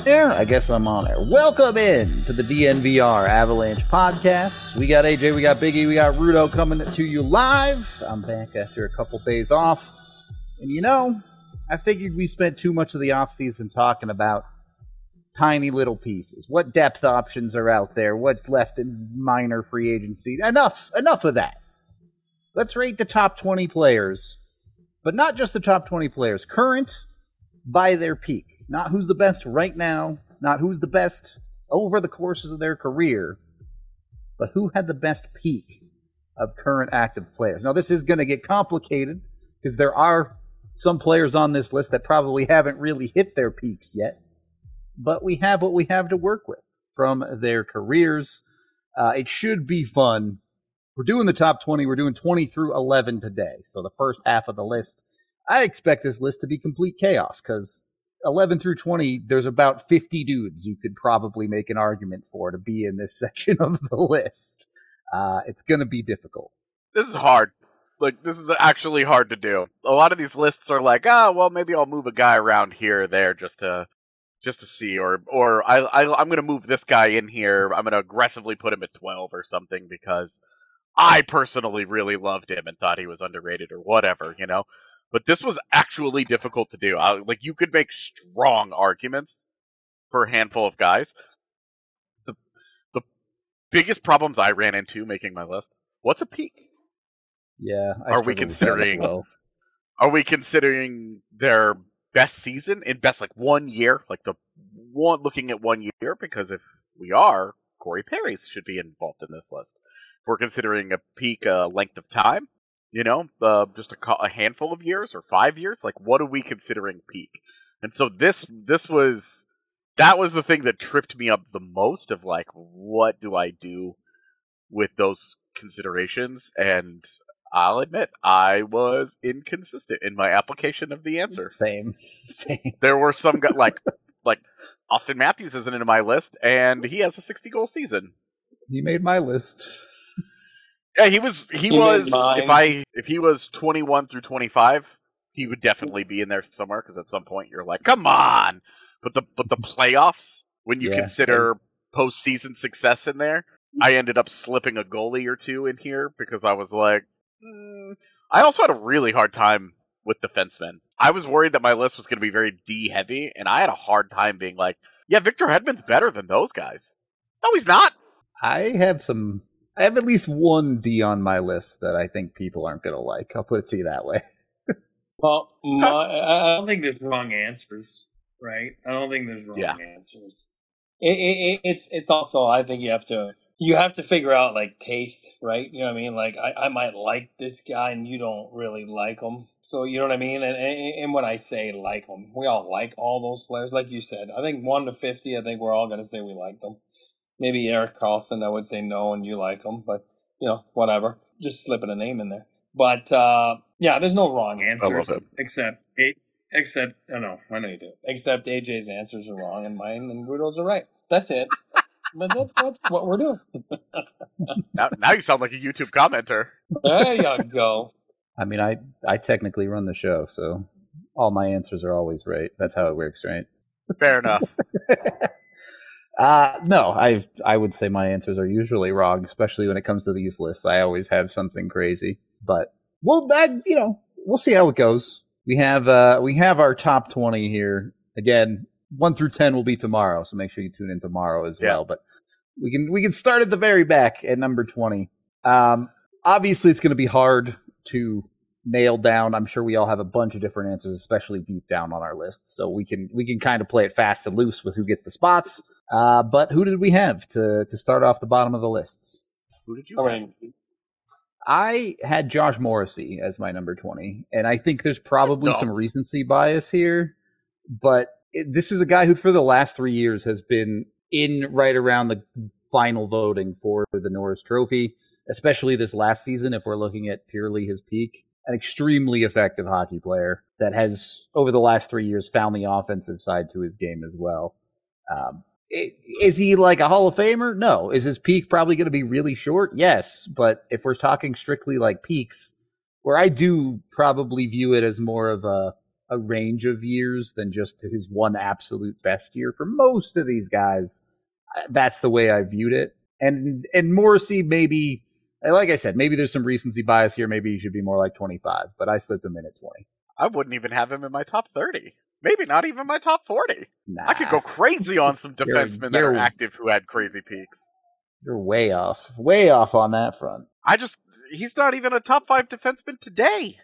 There, I guess I'm on there. Welcome in to the DNVR Avalanche podcast. We got AJ, we got Biggie, we got Rudo coming to you live. I'm back after a couple days off. And you know, I figured we spent too much of the offseason talking about tiny little pieces. What depth options are out there? What's left in minor free agency? Enough of that. Let's rate the top 20 players. But not just the top 20 players. Current by their peak. Not who's the best right now. Not who's the best over the courses of their career. But who had the best peak of current active players. Now, this is going to get complicated because there are some players on this list that probably haven't really hit their peaks yet. But we have what we have to work with from their careers. It should be fun. We're doing the top 20. We're doing 20 through 11 today. So the first half of the list, I expect this list to be complete chaos because 11 through 20, there's about 50 dudes you could probably make an argument for to be in this section of the list. It's going to be difficult. This is hard. Like, this is actually hard to do. A lot of these lists are like, well, maybe I'll move a guy around here or there just to see, or I'm going to move this guy in here. I'm going to aggressively put him at 12 or something because I personally really loved him and thought he was underrated or whatever, you know? But this was actually difficult to do. Like, you could make strong arguments for a handful of guys. The biggest problems I ran into making my list, what's a peak? Yeah. Are we considering their best season in best, like, 1 year? Like, looking at 1 year? Because if we are, Corey Perry should be involved in this list. If we're considering a peak length of time, you know, just a handful of years or 5 years, like, what are we considering peak? And so that was the thing that tripped me up the most of, like, what do I do with those considerations? And I'll admit, I was inconsistent in my application of the answer. Same. There were some guys, like Austin Matthews isn't in my list, and he has a 60-goal season. He made my list. Yeah, he was. If he was 21 through 25, he would definitely be in there somewhere. Because at some point you're like, come on. But the playoffs, when you consider postseason success in there, I ended up slipping a goalie or two in here because I was like, I also had a really hard time with defensemen. I was worried that my list was going to be very D heavy, and I had a hard time being like, yeah, Victor Hedman's better than those guys. No, he's not. I have at least one D on my list that I think people aren't going to like. I'll put it to you that way. Well, I don't think there's wrong answers, right? I don't think there's wrong answers. It's also, I think you have to figure out, like, taste, right? You know what I mean? Like, I might like this guy and you don't really like him. So, you know what I mean? And when I say like him, we all like all those players. Like you said, I think 1 to 50, I think we're all going to say we like them. Maybe Erik Karlsson, I would say no, and you like him, but, you know, whatever. Just slipping a name in there. But, there's no wrong answers. Except, I know you do. Except AJ's answers are wrong and mine and Rudo's are right. That's it. But that's what we're doing. now you sound like a YouTube commenter. There you go. I mean, I technically run the show, so all my answers are always right. That's how it works, right? Fair enough. No, I would say my answers are usually wrong, especially when it comes to these lists. I always have something crazy, but we'll see how it goes. We have our top 20 here. Again, 1 through 10 will be tomorrow, so make sure you tune in tomorrow as well. But we can start at the very back at number 20. Obviously, it's going to be hard to nail down. I'm sure we all have a bunch of different answers, especially deep down on our list. So we can kind of play it fast and loose with who gets the spots. But who did we have to start off the bottom of the lists? Who did you have? I had Josh Morrissey as my number 20, and I think there's probably some recency bias here, but this is a guy who for the last 3 years has been in right around the final voting for the Norris Trophy, especially this last season if we're looking at purely his peak. An extremely effective hockey player that has, over the last 3 years, found the offensive side to his game as well. Is he like a Hall of Famer? No. Is his peak probably going to be really short? Yes. But if we're talking strictly like peaks, where I do probably view it as more of a a range of years than just his one absolute best year. For most of these guys, that's the way I viewed it. And Morrissey, maybe, like I said, maybe there's some recency bias here. Maybe he should be more like 25, but I slipped him in at 20. I wouldn't even have him in my top 30. Maybe not even my top 40. Nah, I could go crazy on some defensemen that are active who had crazy peaks. You're way off on that front. He's not even a top 5 defenseman today.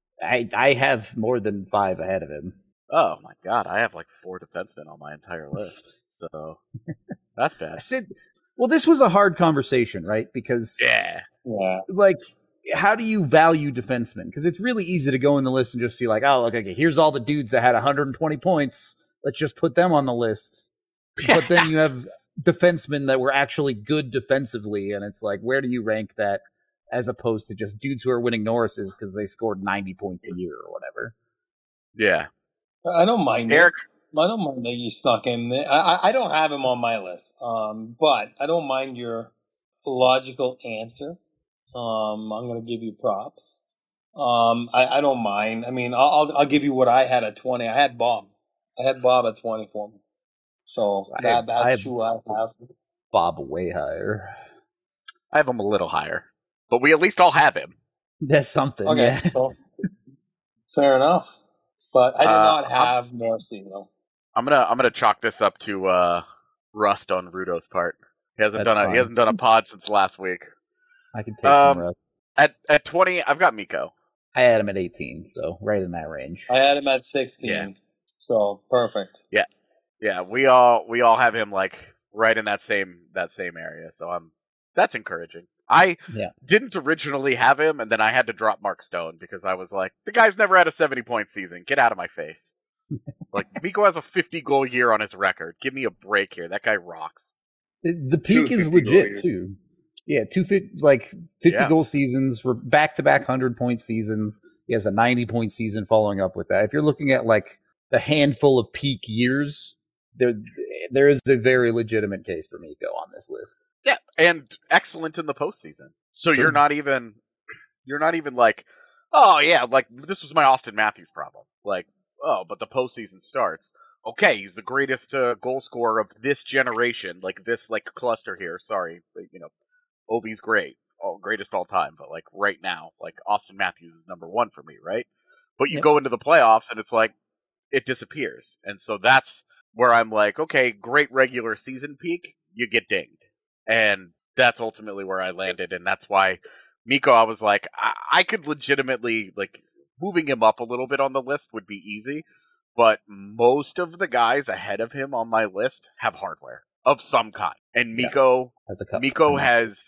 I have more than 5 ahead of him. Oh my god, I have like 4 defensemen on my entire list. So that's bad. Well, this was a hard conversation, right? Because like, how do you value defensemen? Because it's really easy to go in the list and just see like, oh, okay, here's all the dudes that had 120 points. Let's just put them on the list. But then you have defensemen that were actually good defensively, and it's like, where do you rank that as opposed to just dudes who are winning Norrises because they scored 90 points a year or whatever? Yeah. I don't mind Eric. I don't mind that you stuck him there. I don't have him on my list, but I don't mind your logical answer. I'm going to give you props. I don't mind. I mean, I'll give you what I had at 20. I had Bob at 20 for me. So that's who I have. Bob way higher. I have him a little higher, but we at least all have him. That's something. Okay, yeah. So fair enough. But I did not have Morrissey though. I'm gonna chalk this up to rust on Rudo's part. He hasn't done a pod since last week. I can take some rust. At 20, I've got Mikko. I had him at 18, so right in that range. I had him at 16. So perfect. Yeah, we all have him like right in that same area. So that's encouraging. I didn't originally have him, and then I had to drop Mark Stone because I was like, the guy's never had a 70-point season. Get out of my face. Like, Mikko has a 50-goal year on his record. Give me a break here. That guy rocks. The peak is legit, too. Yeah, 50 goal seasons, for back-to-back 100-point seasons. He has a 90-point season following up with that. If you're looking at, like, the handful of peak years, there is a very legitimate case for Mikko on this list. Yeah, and excellent in the postseason. So you're not even like, oh yeah, like this was my Austin Matthews problem. Like, oh, but the postseason starts. Okay, he's the greatest goal scorer of this generation, like this like cluster here. Sorry, but, Ovi's great, greatest all time, but like right now, like Austin Matthews is number 1 for me, right? But you go into the playoffs and it's like it disappears, and so that's where I'm like, okay, great regular season peak, you get dinged. And that's ultimately where I landed, and that's why Mikko, I was like, I could legitimately, like, moving him up a little bit on the list would be easy, but most of the guys ahead of him on my list have hardware of some kind. And Mikko has,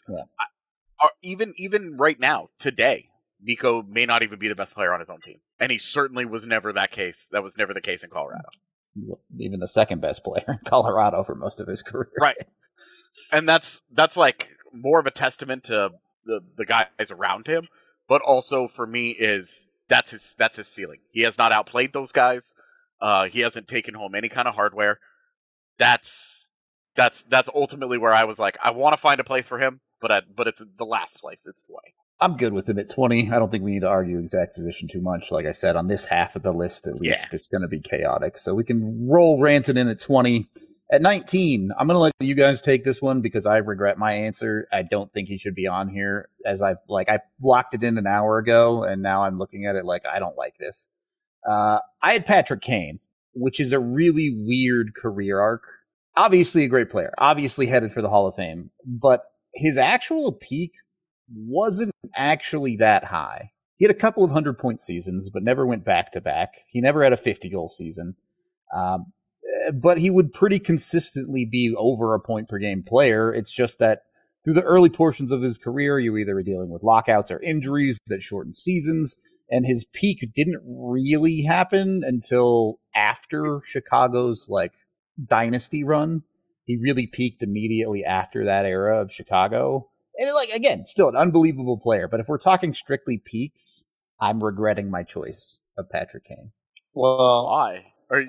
even right now, today, Mikko may not even be the best player on his own team. And he certainly was never that case. That was never the case in Colorado. Even the second best player in Colorado for most of his career. Right. And that's like more of a testament to the guys around him, but also for me that's his ceiling. He has not outplayed those guys. He hasn't taken home any kind of hardware. That's ultimately where I was like, I want to find a place for him, but it's the last place. It's 20. I'm good with him at 20. I don't think we need to argue exact position too much. Like I said, on this half of the list, at least, it's going to be chaotic. So we can roll Rantanen in at 20. At 19, I'm going to let you guys take this one because I regret my answer. I don't think he should be on here, as I blocked it in an hour ago, and now I'm looking at it like I don't like this. I had Patrick Kane, which is a really weird career arc. Obviously a great player, obviously headed for the Hall of Fame, but his actual peak wasn't actually that high. He had a couple of 100-point seasons, but never went back-to-back. He never had a 50-goal season. But he would pretty consistently be over a point-per-game player. It's just that through the early portions of his career, you either were dealing with lockouts or injuries that shortened seasons, and his peak didn't really happen until after Chicago's, dynasty run. He really peaked immediately after that era of Chicago. And, again, still an unbelievable player. But if we're talking strictly peaks, I'm regretting my choice of Patrick Kane. Well, why?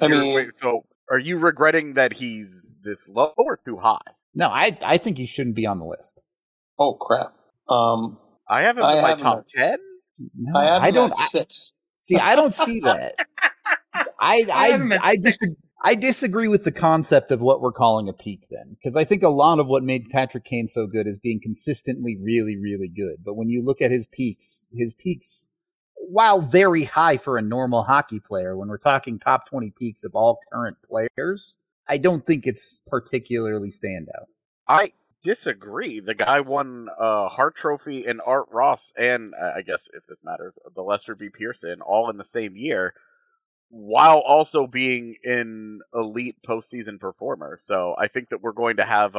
Are you regretting that he's this low or too high? No, I think he shouldn't be on the list. Oh, crap. I have him in my top 10? No, I have him at 6. See, I don't see that. I disagree with the concept of what we're calling a peak then, because I think a lot of what made Patrick Kane so good is being consistently really, really good. But when you look at his peaks, while very high for a normal hockey player, when we're talking top 20 peaks of all current players, I don't think it's particularly standout. I disagree. The guy won a Hart Trophy and Art Ross, and I guess if this matters, the Lester B. Pearson, all in the same year, while also being an elite postseason performer. So I think that we're going to have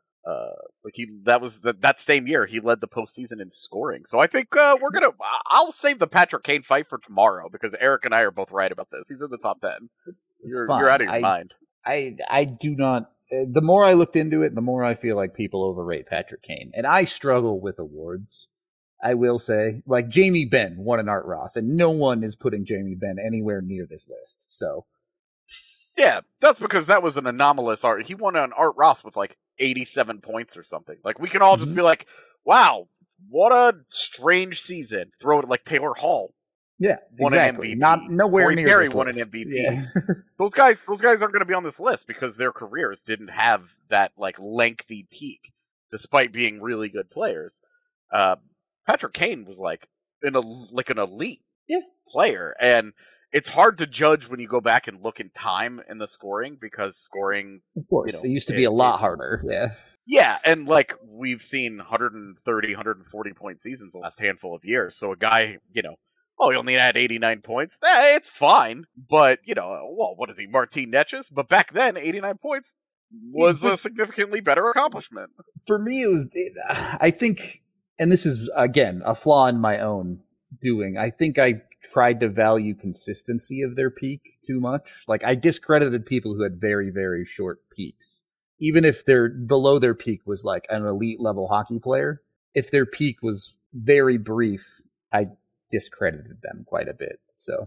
that same year he led the postseason in scoring. So I think I'll save the Patrick Kane fight for tomorrow because Eric and I are both right about this. He's in the top 10. You're out of your mind. I do not. The more I looked into it, the more I feel like people overrate Patrick Kane. And I struggle with awards, I will say. Like, Jamie Benn won an Art Ross, and no one is putting Jamie Benn anywhere near this list. So, yeah, that's because that was an anomalous art. He won an Art Ross with, 87 points or something. We can all just be like, wow, what a strange season. Throw it like Taylor Hall. Yeah, won exactly. An MVP. Nowhere Corey near Perry this won list. an MVP. Yeah. Those guys aren't going to be on this list because their careers didn't have that lengthy peak, despite being really good players. Patrick Kane was an elite player, and it's hard to judge when you go back and look in time in the scoring because scoring, of course, it used to be a lot harder. Yeah. Yeah, and we've seen 130, 140 point seasons the last handful of years. So a guy, he only had 89 points. It's fine. But, what is he, Martin Netches? But back then, 89 points was a significantly better accomplishment. For me, I think, and this is, again, a flaw in my own doing, I think I tried to value consistency of their peak too much. I discredited people who had very, very short peaks. Even if they're below their peak was an elite level hockey player, if their peak was very brief, I discredited them quite a bit. So,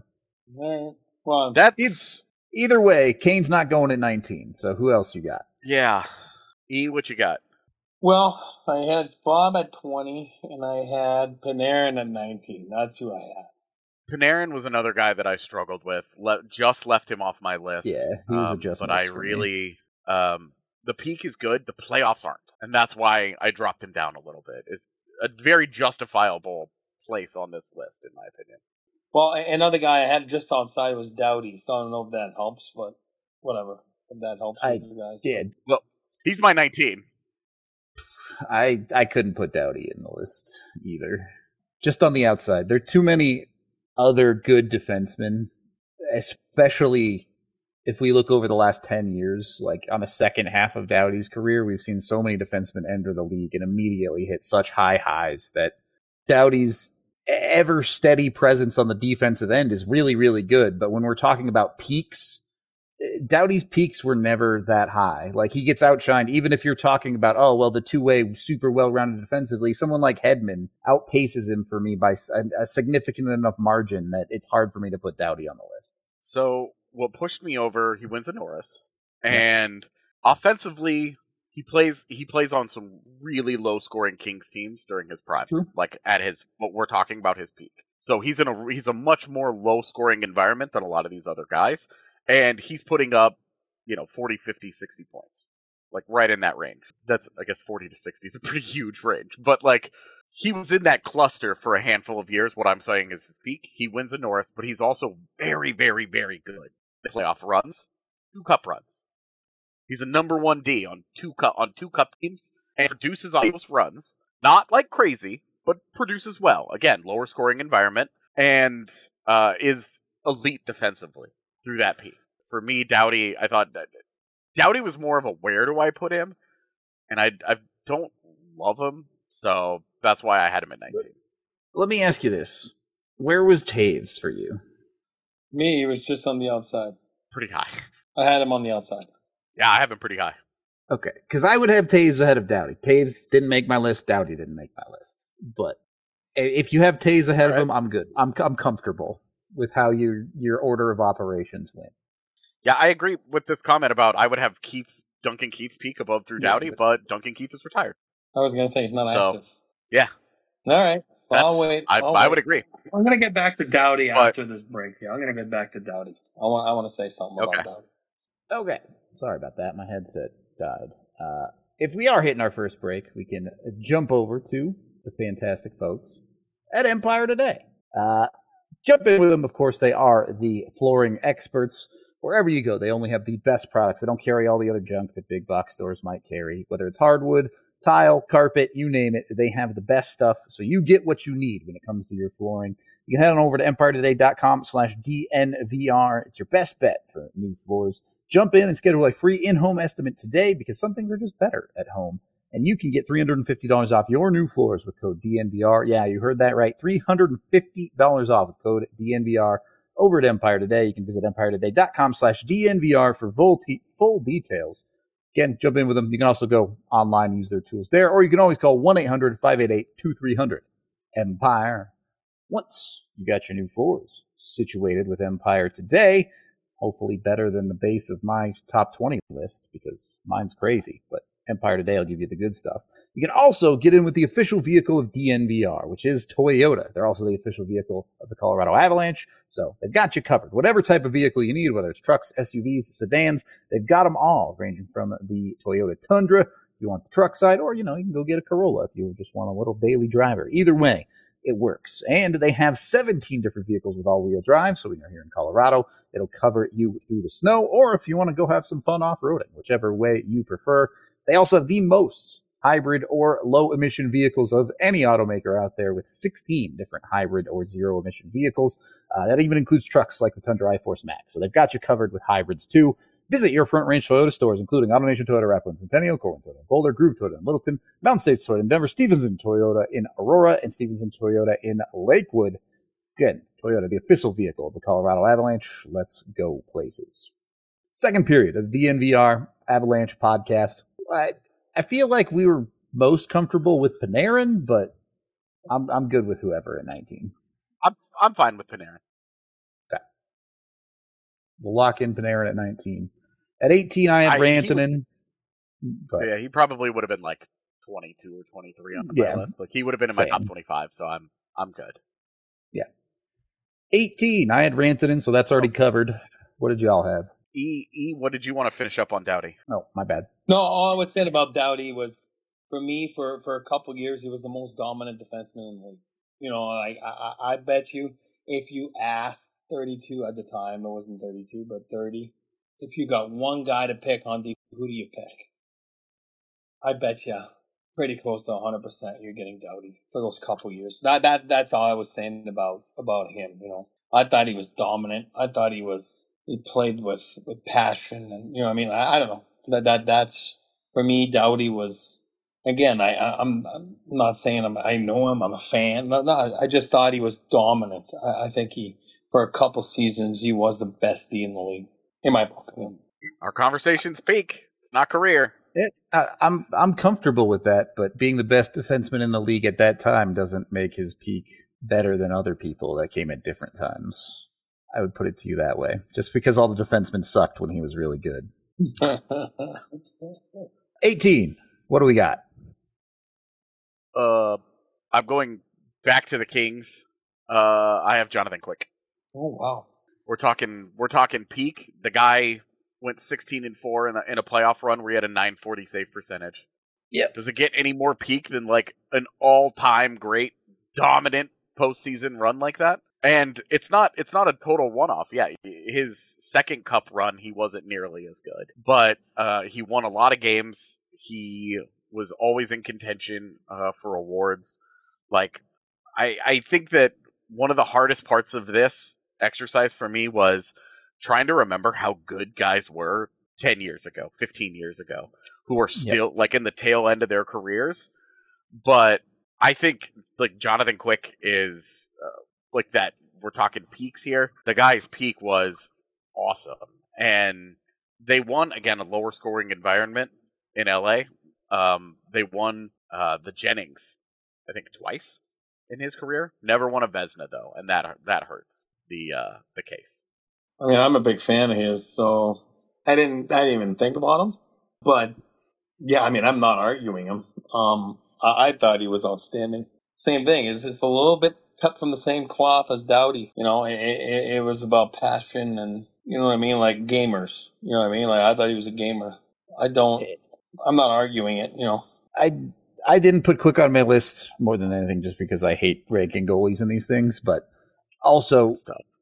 well, that's either way. Kane's not going at 19. So who else you got? Yeah, what you got? Well, I had Bob at 20, and I had Panarin at 19. That's who I had. Panarin was another guy that I struggled with. Just left him off my list. Yeah, he was a just. But I really. The peak is good, the playoffs aren't. And that's why I dropped him down a little bit. It's a very justifiable place on this list, in my opinion. Well, another guy I had just outside was Doughty, so I don't know if that helps, but whatever. If that helps with you guys. Yeah. Well, he's my 19. I couldn't put Doughty in the list either. Just on the outside. There are too many other good defensemen, especially if we look over the last 10 years, on the second half of Doughty's career, we've seen so many defensemen enter the league and immediately hit such high highs that Doughty's ever steady presence on the defensive end is really, really good. But when we're talking about peaks, Doughty's peaks were never that high. He gets outshined, even if you're talking about, the two-way, super well-rounded defensively, someone like Hedman outpaces him for me by a significant enough margin that it's hard for me to put Doughty on the list. So what pushed me over, he wins a Norris. And offensively, he plays on some really low-scoring Kings teams during his prime. At what we're talking about, his peak. So he's a much more low-scoring environment than a lot of these other guys. And he's putting up, 40, 50, 60 points. Right in that range. That's, I guess, 40 to 60 is a pretty huge range. But, he was in that cluster for a handful of years. What I'm saying is his peak. He wins a Norris, but he's also very, very, very good. Playoff runs, 2 cup runs. He's a number 1 D on 2 cup teams and produces on those runs. Not crazy, but produces well. Again, lower scoring environment and is elite defensively through that peak. For me, Doughty, I thought that Doughty was more of a where do I put him, and I don't love him, so that's why I had him at 19. Let me ask you this: where was Taves for you? Me, he was just on the outside. Pretty high. I had him on the outside. Yeah, I have him pretty high. Okay, because I would have Taves ahead of Doughty. Taves didn't make my list. Doughty didn't make my list. But if you have Taves ahead of him, I'm good. I'm comfortable with how your order of operations went. Yeah, I agree with this comment about I would have Duncan Keith's peak above Drew Doughty, but Duncan Keith is retired. I was going to say he's not active. Yeah. All right. I'll wait. I would agree. I'm going to get back to Doughty after this break. Yeah, I'm going to get back to Doughty. I want to say something about Doughty. Okay. Sorry about that. My headset died. If we are hitting our first break, we can jump over to the fantastic folks at Empire Today. Jump in with them. Of course, they are the flooring experts. Wherever you go, they only have the best products. They don't carry all the other junk that big box stores might carry, whether it's hardwood, tile, carpet, you name it. They have the best stuff, so you get what you need when it comes to your flooring. You can head on over to empiretoday.com/DNVR. It's your best bet for new floors. Jump in and schedule a free in-home estimate today because some things are just better at home. And you can get $350 off your new floors with code DNVR. Yeah, you heard that right. $350 off with code DNVR over at Empire Today. You can visit empiretoday.com/DNVR for full details. Again, jump in with them. You can also go online and use their tools there, or you can always call 1-800-588-2300. Empire. Once you got your new floors situated with Empire Today, hopefully better than the base of my top 20 list because mine's crazy, but Empire Today will give you the good stuff. You can also get in with the official vehicle of DNVR, which is Toyota. They're also the official vehicle of the Colorado Avalanche, so they've got you covered. Whatever type of vehicle you need, whether it's trucks, SUVs, sedans, they've got them all, ranging from the Toyota Tundra, if you want the truck side, or, you can go get a Corolla if you just want a little daily driver. Either way, it works. And they have 17 different vehicles with all-wheel drive, so when you're here in Colorado, it'll cover you through the snow, or if you want to go have some fun off-roading, whichever way you prefer. They also have the most hybrid or low-emission vehicles of any automaker out there with 16 different hybrid or zero-emission vehicles. That even includes trucks like the Tundra iForce Max. So they've got you covered with hybrids, too. Visit your Front Range Toyota stores, including AutoNation Toyota, Rapid, Centennial, Corwin Toyota, Boulder, Groove Toyota in Littleton, Mountain States Toyota in Denver, Stevenson Toyota in Aurora, and Stevenson Toyota in Lakewood. Again, Toyota, the official vehicle of the Colorado Avalanche. Let's go places. Second period of the DNVR Avalanche podcast. I feel like we were most comfortable with Panarin, but I'm good with whoever at 19. I'm fine with Panarin. Okay. We'll lock in Panarin at 19. At 18, I had Rantanen. Yeah, he probably would have been like 22 or 23 on my list. Like he would have been in my top 25, so I'm good. Yeah. 18, I had Rantanen, so that's already covered. What did y'all have? What did you want to finish up on Doughty? Oh, my bad. No, all I was saying about Doughty was, for me, for a couple years, he was the most dominant defenseman in the league. I bet you if you asked 32 at the time, it wasn't 32, but 30, if you got one guy to pick on, who do you pick? I bet you pretty close to 100% you're getting Doughty for those couple years. That's all I was saying about him. I thought he was dominant. I thought he played with passion, and I don't know. That's for me. Doughty was, again. I'm not saying I know him. I'm a fan. No, I just thought he was dominant. I think for a couple seasons he was the best D in the league in my book. Our conversation's peak. It's not career. I'm comfortable with that, but being the best defenseman in the league at that time doesn't make his peak better than other people that came at different times. I would put it to you that way. Just because all the defensemen sucked when he was really good. 18. What do we got? I'm going back to the Kings. I have Jonathan Quick. Oh wow. We're talking peak. The guy went 16-4 in a playoff run where he had a .940 save percentage. Yep. Does it get any more peak than like an all-time great dominant postseason run like that? And it's not a total one-off. Yeah, his second cup run, he wasn't nearly as good. But he won a lot of games. He was always in contention for awards. Like, I think that one of the hardest parts of this exercise for me was trying to remember how good guys were 10 years ago, 15 years ago, who are still like in the tail end of their careers. But I think like Jonathan Quick is like that. We're talking peaks here. The guy's peak was awesome. And they won, again, a lower scoring environment in LA. They won the Jennings, I think, twice in his career. Never won a Vezina, though, and that hurts the case. I mean, I'm a big fan of his, so I didn't even think about him. But yeah, I mean, I'm not arguing him. I thought he was outstanding. same thing. It's just a little bit cut from the same cloth as Doughty. It was about passion and, you know what I mean? Like gamers. You know what I mean? Like I thought he was a gamer. I'm not arguing it, I didn't put Quick on my list more than anything just because I hate ranking goalies in these things, but also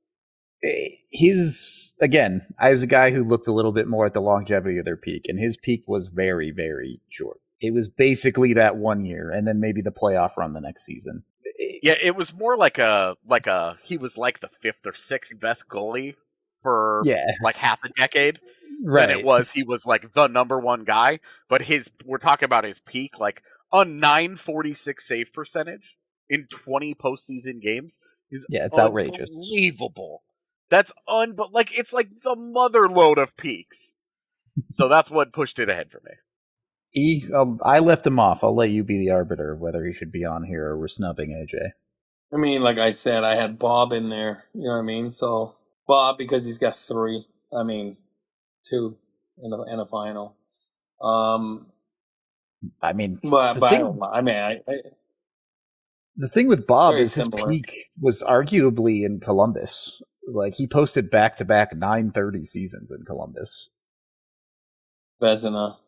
I was a guy who looked a little bit more at the longevity of their peak, and his peak was very, very short. It was basically that 1 year, and then maybe the playoff run the next season. Yeah, it was more like he was like the fifth or sixth best goalie for like half a decade. Right. Than it was he was like the number one guy. But we're talking about his peak, like a 946 save percentage in 20 postseason games is it's outrageous. Unbelievable. That's it's like the mother load of peaks. So that's what pushed it ahead for me. I left him off. I'll let you be the arbiter of whether he should be on here or we're snubbing AJ. I mean, like I said, I had Bob in there. You know what I mean? So Bob, because he's got 3. I mean, 2 in a final. I mean, the thing with Bob is similar. His peak was arguably in Columbus. Like he posted back-to-back 930 seasons in Columbus. Vezina.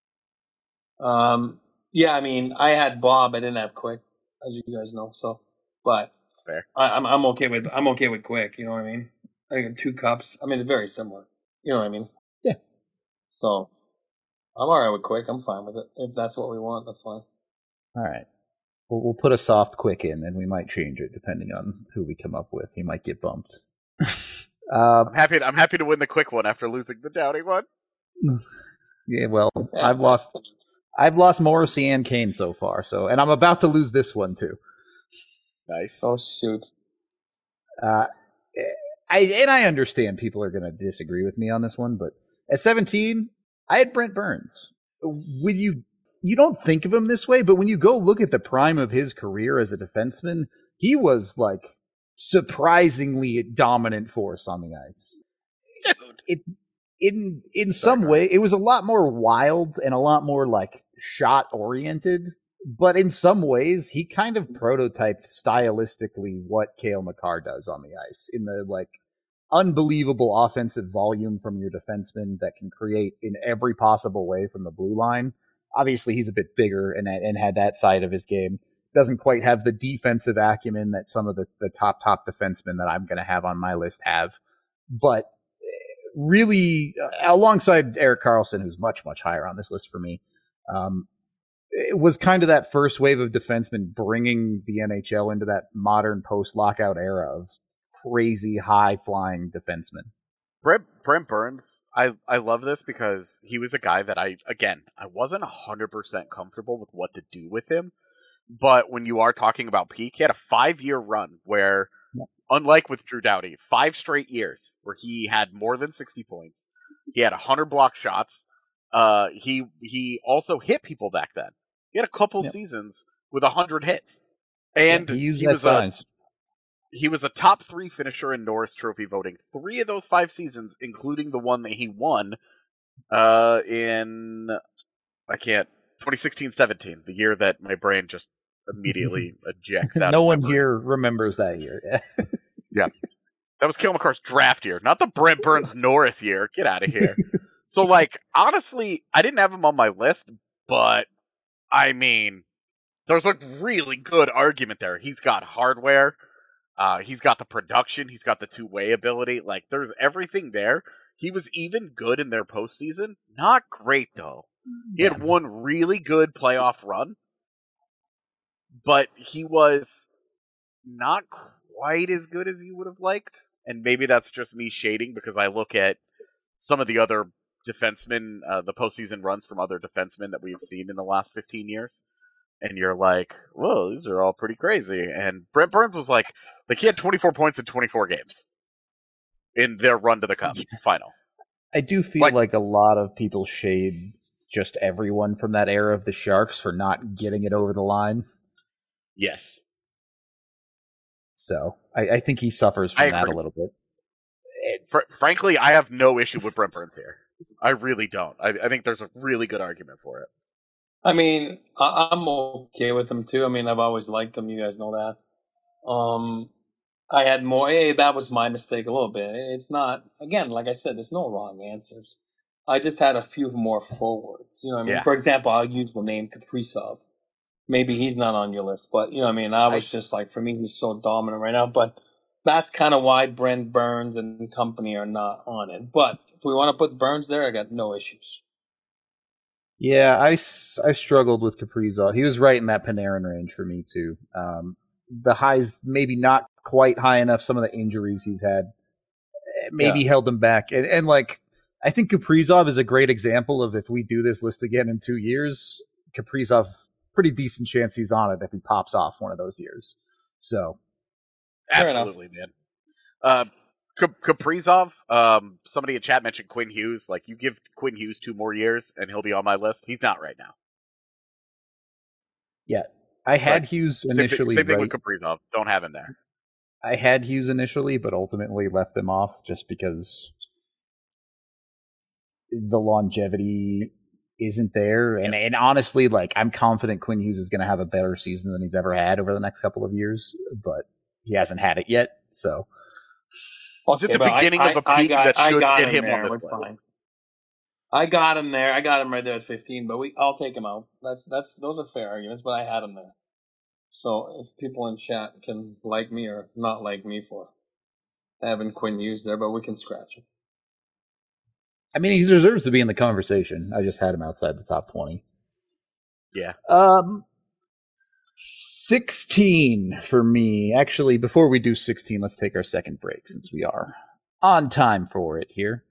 Yeah, I mean, I had Bob. I didn't have Quick, as you guys know. So, but that's fair. I'm okay with Quick. You know what I mean? I got 2 cups. I mean, it's very similar. You know what I mean? Yeah. So, I'm all right with Quick. I'm fine with it. If that's what we want, that's fine. All right. We'll put a soft Quick in, and we might change it depending on who we come up with. He might get bumped. I'm happy to win the Quick one after losing the Doughty one. Yeah, well, I've lost Morrissey and Kane so far, and I'm about to lose this one too. Nice. Oh shoot. I understand people are going to disagree with me on this one, but at 17, I had Brent Burns. When you don't think of him this way, but when you go look at the prime of his career as a defenseman, he was like surprisingly dominant force on the ice. Dude. In some way, it was a lot more wild and a lot more like shot oriented, but in some ways, he kind of prototyped stylistically what Cale Makar does on the ice in the like unbelievable offensive volume from your defenseman that can create in every possible way from the blue line. Obviously, he's a bit bigger and had that side of his game. Doesn't quite have the defensive acumen that some of the top defensemen that I'm going to have on my list have. But really, alongside Erik Karlsson, who's much, much higher on this list for me, it was kind of that first wave of defensemen bringing the NHL into that modern post-lockout era of crazy high-flying defensemen. Brent Burns, I love this because he was a guy that I wasn't 100% comfortable with what to do with him. But when you are talking about peak, he had a 5-year run where, unlike with Drew Doughty, 5 straight years where he had more than 60 points. He had 100 block shots. He also hit people back then. He had a couple seasons with 100 hits. And he used that size. He was a top 3 finisher in Norris Trophy voting 3 of those 5 seasons, including the one that he won in 2016-17, the year that my brain just immediately ejects out. No one here remembers that year. Yeah. That was Cale Makar's draft year, not the Brent Burns Norris year. Get out of here. So, like, honestly, I didn't have him on my list, but, I mean, there's a really good argument there. He's got hardware. He's got the production. He's got the two-way ability. Like, there's everything there. He was even good in their postseason. Not great, though. He had one really good playoff run, but he was not quite as good as you would have liked. And maybe that's just me shading because I look at some of the other defensemen, the postseason runs from other defensemen that we've seen in the last 15 years. And you're like, whoa, these are all pretty crazy. And Brent Burns was like he had 24 points in 24 games in their run to the Cup final. I do feel like a lot of people shade just everyone from that era of the Sharks for not getting it over the line. Yes. So I think he suffers from that a little bit. Frankly, I have no issue with Brent Burns here. I really don't. I think there's a really good argument for it. I mean, I'm okay with him too. I mean, I've always liked him. You guys know that. I had more. Hey, that was my mistake a little bit. It's not, again, like I said, there's no wrong answers. I just had a few more forwards. You know what I mean? Yeah. For example, I'll use the name Kaprizov. Maybe he's not on your list, but you know what I mean? I was just like, for me, he's so dominant right now. But that's kind of why Brent Burns and company are not on it. But if we want to put Burns there, I got no issues. Yeah, I struggled with Kaprizov. He was right in that Panarin range for me, too. The highs, maybe not quite high enough. Some of the injuries he's had maybe held him back. And like, I think Kaprizov is a great example of if we do this list again in 2 years, Kaprizov, pretty decent chance he's on it if he pops off one of those years. So, absolutely, man. Kaprizov, somebody in chat mentioned Quinn Hughes. Like, you give Quinn Hughes 2 more years and he'll be on my list. He's not right now. Yeah, I had Hughes initially. Same thing with Kaprizov. Don't have him there. I had Hughes initially, but ultimately left him off just because the longevity isn't there. And honestly, like, I'm confident Quinn Hughes is going to have a better season than he's ever had over the next couple of years, but he hasn't had it yet. So, is it the beginning of a peak that should get him on this list? Fine. I got him there. I got him right there at 15, but I'll take him out. Those are fair arguments, but I had him there. So if people in chat can like me or not like me for having Quinn Hughes there, but we can scratch him. I mean, he deserves to be in the conversation. I just had him outside the top 20. Yeah. 16 for me. Actually, before we do 16, let's take our second break since we are on time for it here.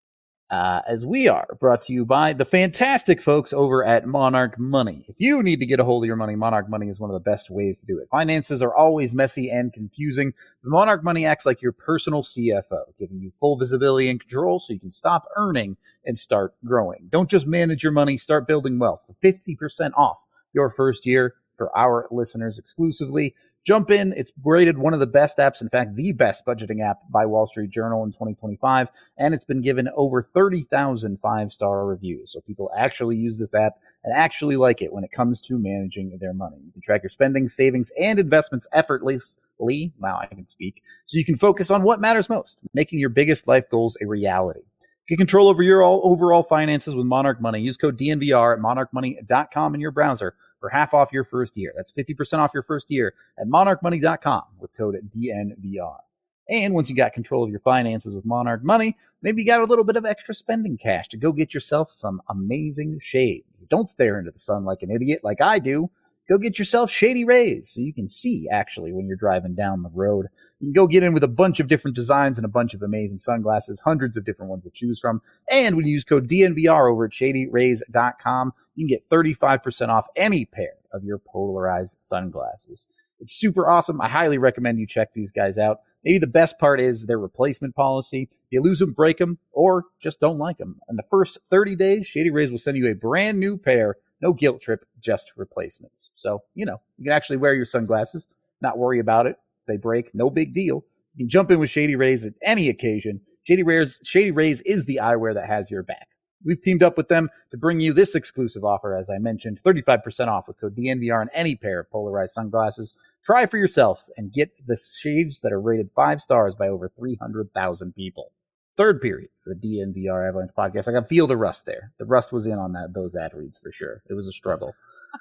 As we are brought to you by the fantastic folks over at Monarch Money. If you need to get a hold of your money, Monarch Money is one of the best ways to do it. Finances are always messy and confusing. But Monarch Money acts like your personal CFO, giving you full visibility and control so you can stop earning and start growing. Don't just manage your money, start building wealth for 50% off your first year for our listeners exclusively. Jump in. It's rated one of the best apps, in fact, the best budgeting app by Wall Street Journal in 2025, and it's been given over 30,000 five-star reviews. So people actually use this app and actually like it when it comes to managing their money. You can track your spending, savings, and investments effortlessly. Wow, I can speak. So you can focus on what matters most, making your biggest life goals a reality. Get control over your overall finances with Monarch Money. Use code DNVR at monarchmoney.com in your browser for half off your first year. That's 50% off your first year at monarchmoney.com with code DNVR. And once you got control of your finances with Monarch Money, maybe you got a little bit of extra spending cash to go get yourself some amazing shades. Don't stare into the sun like an idiot like I do. Go get yourself Shady Rays so you can see actually when you're driving down the road. You can go get in with a bunch of different designs and a bunch of amazing sunglasses, hundreds of different ones to choose from. And when you use code DNVR over at shadyrays.com, you can get 35% off any pair of your polarized sunglasses. It's super awesome. I highly recommend you check these guys out. Maybe the best part is their replacement policy. You lose them, break them, or just don't like them. In the first 30 days, Shady Rays will send you a brand new pair. No guilt trip, just replacements. So, you can actually wear your sunglasses, not worry about it. If they break, no big deal. You can jump in with Shady Rays at any occasion. Shady Rays is the eyewear that has your back. We've teamed up with them to bring you this exclusive offer, as I mentioned, 35% off with code DNVR on any pair of polarized sunglasses. Try for yourself and get the shades that are rated 5 stars by over 300,000 people. Third period for the DNVR Avalanche podcast. I can feel the rust there. The rust was in on those ad reads for sure. It was a struggle.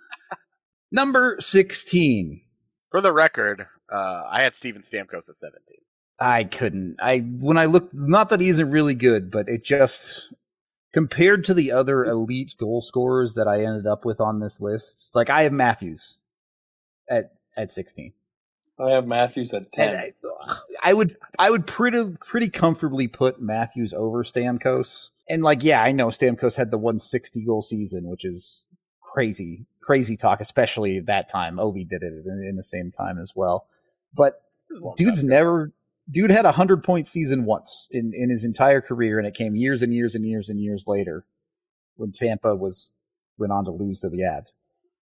Number 16. For the record, I had Steven Stamkos at 17. I couldn't. When I looked, not that he isn't really good, but it just, compared to the other elite goal scorers that I ended up with on this list, like I have Matthews at 16. I have Matthews at 10. I would pretty comfortably put Matthews over Stamkos. And I know Stamkos had the 160 goal season, which is crazy talk, especially that time. Ovi did it in the same time as well. But dude had a 100-point season once in his entire career, and it came years and years and years and years later when Tampa went on to lose to the Avs.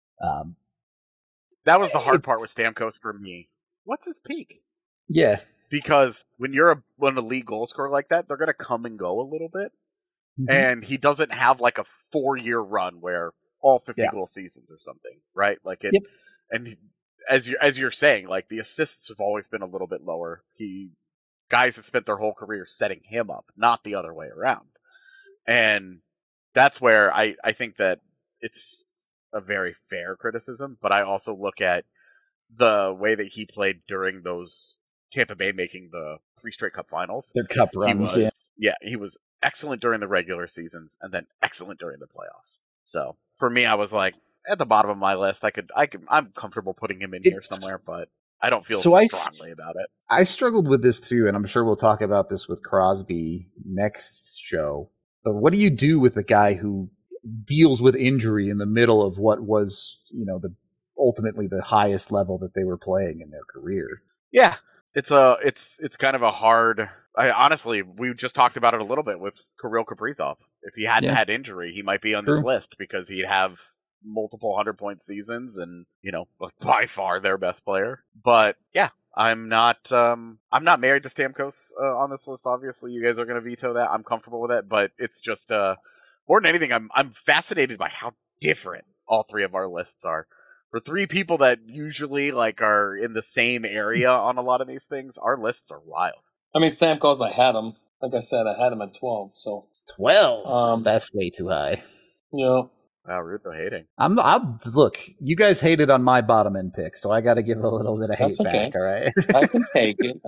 That was the hard part with Stamkos for me. What's his peak? Yeah. Because when you're an elite goal scorer like that, they're going to come and go a little bit. Mm-hmm. And he doesn't have like a 4-year run where all 50 goal seasons or something, right? Like it, and as you're saying, like the assists have always been a little bit lower. Guys have spent their whole career setting him up, not the other way around. And that's where I think that it's a very fair criticism, but I also look at the way that he played during those Tampa Bay making the 3 straight cup finals. Their cup runs, he was excellent during the regular seasons and then excellent during the playoffs. So for me, I was like, at the bottom of my list, I'm comfortable putting him in here somewhere, but I don't feel strongly about it. I struggled with this too, and I'm sure we'll talk about this with Crosby next show. But what do you do with a guy who deals with injury in the middle of what was, ultimately the highest level that they were playing in their career? Yeah, it's kind of a hard. Honestly, we just talked about it a little bit with Kirill Kaprizov. If he hadn't had injury, he might be on this list because he'd have multiple 100-point seasons and by far their best player. But yeah, I'm not married to Stamkos on this list. Obviously, you guys are going to veto that. I'm comfortable with it, but it's just more than anything, I'm fascinated by how different all 3 of our lists are. For 3 people that usually are in the same area on a lot of these things, our lists are wild. I mean, Stamkos, I had him. Like I said, I had him at 12. So 12. That's way too high. Yeah. Wow, Rudo hating. Look, you guys hated on my bottom end pick, so I got to give a little bit of hate back. All right, I can take it.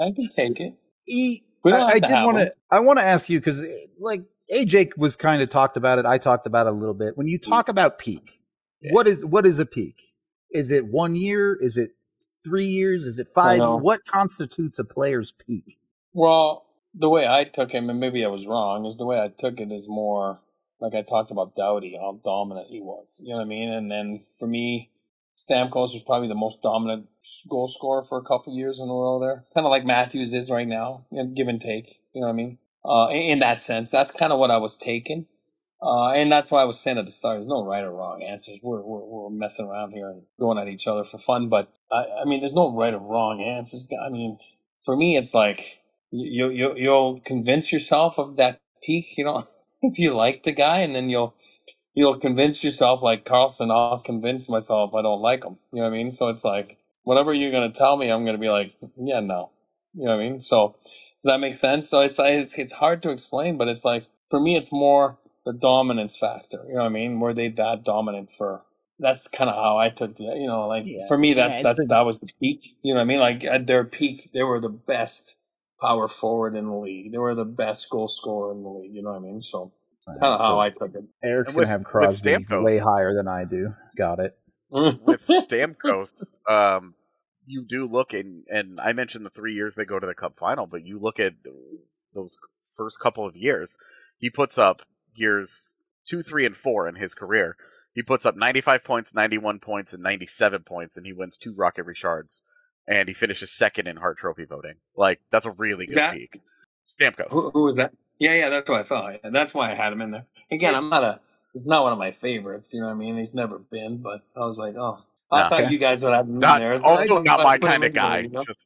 I want to ask you because, AJ was kind of talked about it. I talked about it a little bit. When you talk about peak, what is a peak? Is it 1 year? Is it 3 years? Is it 5? What constitutes a player's peak? Well, the way I took him, and maybe I was wrong, is the way I took it is more. Like I talked about Doughty, how dominant he was. You know what I mean? And then for me, Stamkos was probably the most dominant goal scorer for a couple years in a row there. Kind of like Matthews is right now, give and take. You know what I mean? In that sense, that's kind of what I was taking. And that's why I was saying at the start, there's no right or wrong answers. We're messing around here and going at each other for fun. But, I mean, there's no right or wrong answers. I mean, for me, it's like you'll convince yourself of that peak, if you like the guy, and then you'll convince yourself, like Carlson, I'll convince myself I don't like him. You know what I mean? So it's like, whatever you're going to tell me, I'm going to be like, yeah, no. You know what I mean? So does that make sense? So it's hard to explain, but it's like, for me, it's more the dominance factor. You know what I mean? Were they that dominant for? That's kind of how I took it. For me, that was the peak. You know what I mean? Like at their peak, they were the best power forward in the league. They were the best goal scorer in the league. You know what I mean? So kind of how I took it. Eric's going to have Crosby way higher than I do. Got it. With Stamkos, you do look and I mentioned the 3 years they go to the Cup final, but you look at those first couple of years, he puts up years 2, 3, and 4 in his career. He puts up 95 points, 91 points, and 97 points, and he wins 2 Rocket Richards. And he finishes second in Hart Trophy voting. That's a really good peak. Stamkos. Who is that? Yeah, that's what I thought. And that's why I had him in there. Again, it's not one of my favorites, you know what I mean? He's never been, but I was like, I thought you guys would have him in there. Also not my kind of guy.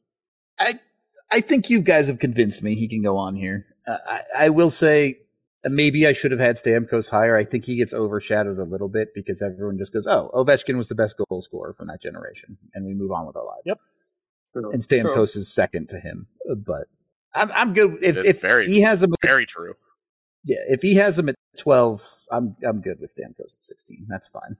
I think you guys have convinced me he can go on here. I will say, maybe I should have had Stamkos higher. I think he gets overshadowed a little bit because everyone just goes, Ovechkin was the best goal scorer from that generation. And we move on with our lives. Yep. And Stamkos is second to him, but I'm good if he has him. Very true. Yeah, if he has him at 12, I'm good with Stamkos at 16. That's fine.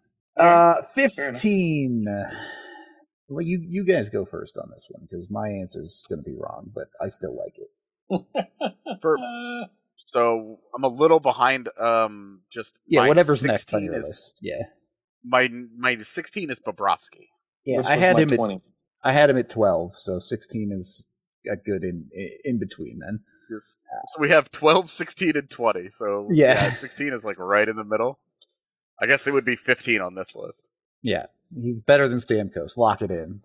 15. Well, you guys go first on this one because my answer is going to be wrong, but I still like it. So I'm a little behind. Whatever's next on your list. Yeah, my 16 is Bobrovsky. Yeah, I had him 20. I had him at 12, so 16 is a good in between then. So we have 12, 16, and 20. So 16 is right in the middle. I guess it would be 15 on this list. Yeah, he's better than Stamkos. Lock it in.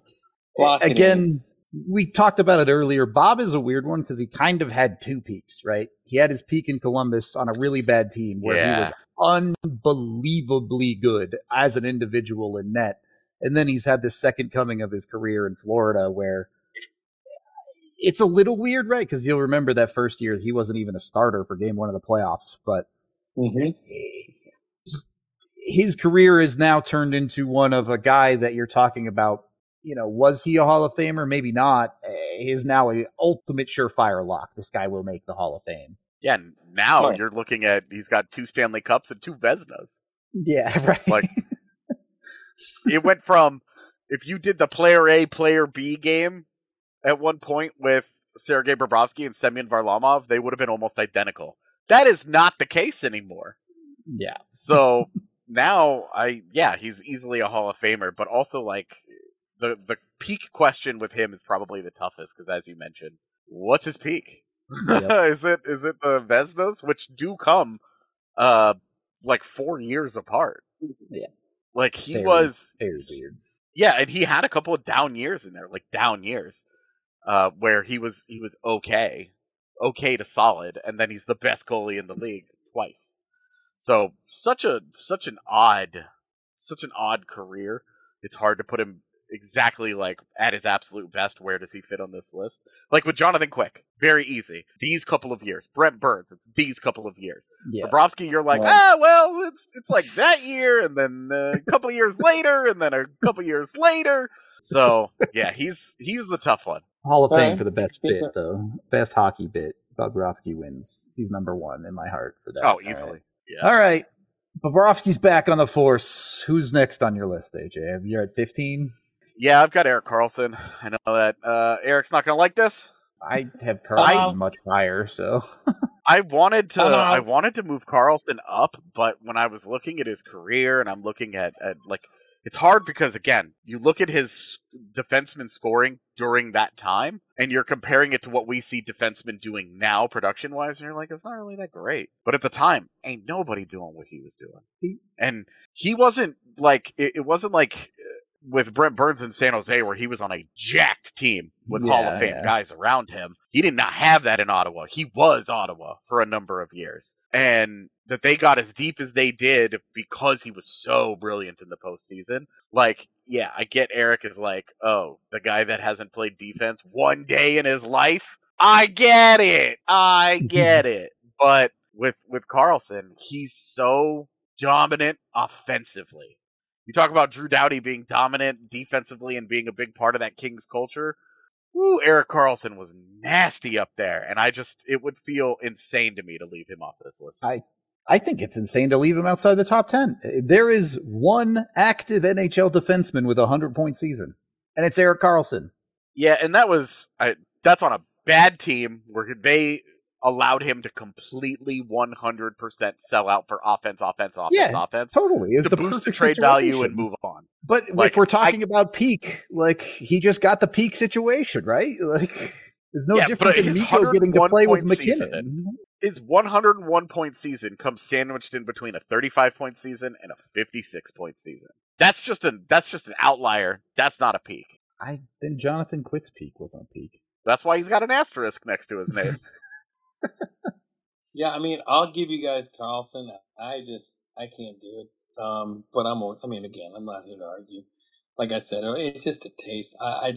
We talked about it earlier. Bob is a weird one because he kind of had 2 peaks, right? He had his peak in Columbus on a really bad team where he was unbelievably good as an individual in net. And then he's had this second coming of his career in Florida where it's a little weird, right? Because you'll remember that first year he wasn't even a starter for game 1 of the playoffs. But his career is now turned into one of a guy that you're talking about. Was he a Hall of Famer? Maybe not. He's now an ultimate surefire lock. This guy will make the Hall of Fame. Yeah, now you're looking at he's got 2 Stanley Cups and 2 Vezinas. Yeah, right. Like, it went from, if you did the player A, player B game at one point with Sergei Bobrovsky and Semyon Varlamov, they would have been almost identical. That is not the case anymore. Yeah. So now, he's easily a Hall of Famer, but also, like, the peak question with him is probably the toughest, because as you mentioned, what's his peak? Yep. Is it the Vezinas, which do come like 4 years apart? Yeah. Like, he was very weird. Yeah, and he had a couple of down years in there, like down years, where he was okay to solid, and then he's the best goalie in the league twice. So such an odd career. It's hard to put him exactly like at his absolute best. Where does he fit on this list? Like with Jonathan Quick, very easy. These couple of years. Brent Burns, it's these couple of years. Yeah. Bobrovsky, you're like, it's like that year, and then a couple years later, and then a couple years later. So yeah, he's the tough one. Hall of Fame for the best bit though, best hockey bit. Bobrovsky wins. He's number 1 in my heart for that. Oh, easily. Right. Yeah. All right. Bobrovsky's back on the force. Who's next on your list, AJ? You're at 15? Yeah, I've got Erik Karlsson. I know that Eric's not going to like this. I have Karlsson much higher, so I wanted to move Karlsson up, but when I was looking at his career and I'm looking at like, it's hard because, again, you look at his defenseman scoring during that time, and you're comparing it to what we see defensemen doing now, production-wise, and you're like, it's not really that great. But at the time, ain't nobody doing what he was doing. And he wasn't like, it wasn't like with Brent Burns in San Jose where he was on a jacked team with Hall of Fame guys around him. He did not have that in Ottawa. He was Ottawa for a number of years. And that they got as deep as they did because he was so brilliant in the postseason. Like, yeah, I get Eric is like, oh, the guy that hasn't played defense one day in his life. I get it. But with Karlsson, he's so dominant offensively. You talk about Drew Doughty being dominant defensively and being a big part of that Kings culture. Woo, Erik Karlsson was nasty up there, and it would feel insane to me to leave him off this list. I think it's insane to leave him outside the top 10. There is one active NHL defenseman with a 100-point season, and it's Erik Karlsson. Yeah, and that's on a bad team where they allowed him to completely 100% sell out for offense. Totally. It's to the boost the perfect trade situation. Value and move on. But if we're talking about peak, like, he just got the peak situation, right? Like, there's no different than Nico getting to play with McKinnon. His 101-point season comes sandwiched in between a 35-point season and a 56-point season. That's just an outlier. That's not a peak. Then Jonathan Quick's peak wasn't a peak. That's why he's got an asterisk next to his name. Yeah, I mean, I'll give you guys Karlsson. I can't do it. But I'm not here to argue. Like I said, it's just a taste. I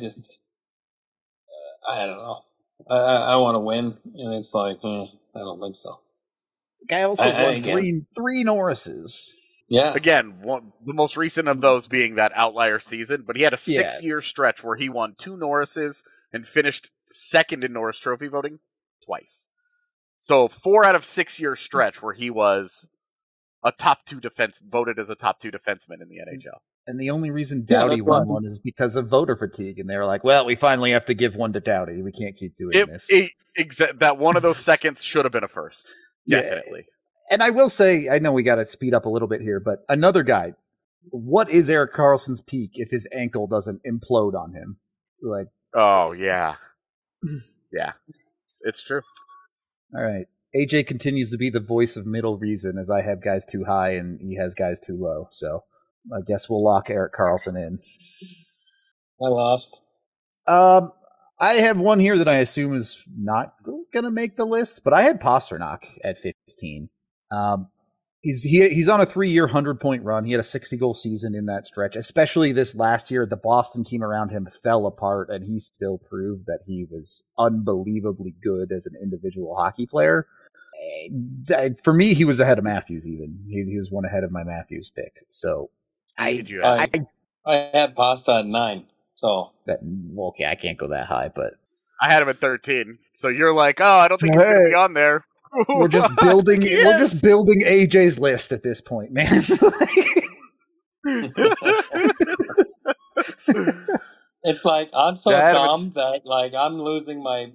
don't know. I want to win, and it's like, I don't think so. The guy also won three Norrises. Yeah. Again, the most recent of those being that outlier season, but he had a 6-year stretch where he won 2 Norrises and finished second in Norris Trophy voting twice. So 4 out of 6-year stretch where he was a top 2 voted as a top 2 defenseman in the NHL. And the only reason Doughty won one is because of voter fatigue. And they were like, well, we finally have to give one to Doughty. We can't keep doing this. That one of those seconds should have been a first. Definitely. Yeah. And I will say, I know we got to speed up a little bit here, but another guy, what is Erik Karlsson's peak if his ankle doesn't implode on him? Like, oh, yeah. Yeah, it's true. All right. AJ continues to be the voice of middle reason as I have guys too high and he has guys too low. So I guess we'll lock Erik Karlsson in. I lost. I have one here that I assume is not going to make the list, but I had Pastrnak at 15. He's on a 3-year 100-point run. He had a 60-goal season in that stretch, especially this last year. The Boston team around him fell apart, and he still proved that he was unbelievably good as an individual hockey player. For me, he was ahead of Matthews. Even he was one ahead of my Matthews pick. So Did you have? I had Pasta at 9. So okay, I can't go that high, but I had him at 13. So you're like, oh, I don't think he's gonna be on there. We're just building. We're just building AJ's list at this point, man. It's like I'm so dumb that like I'm losing my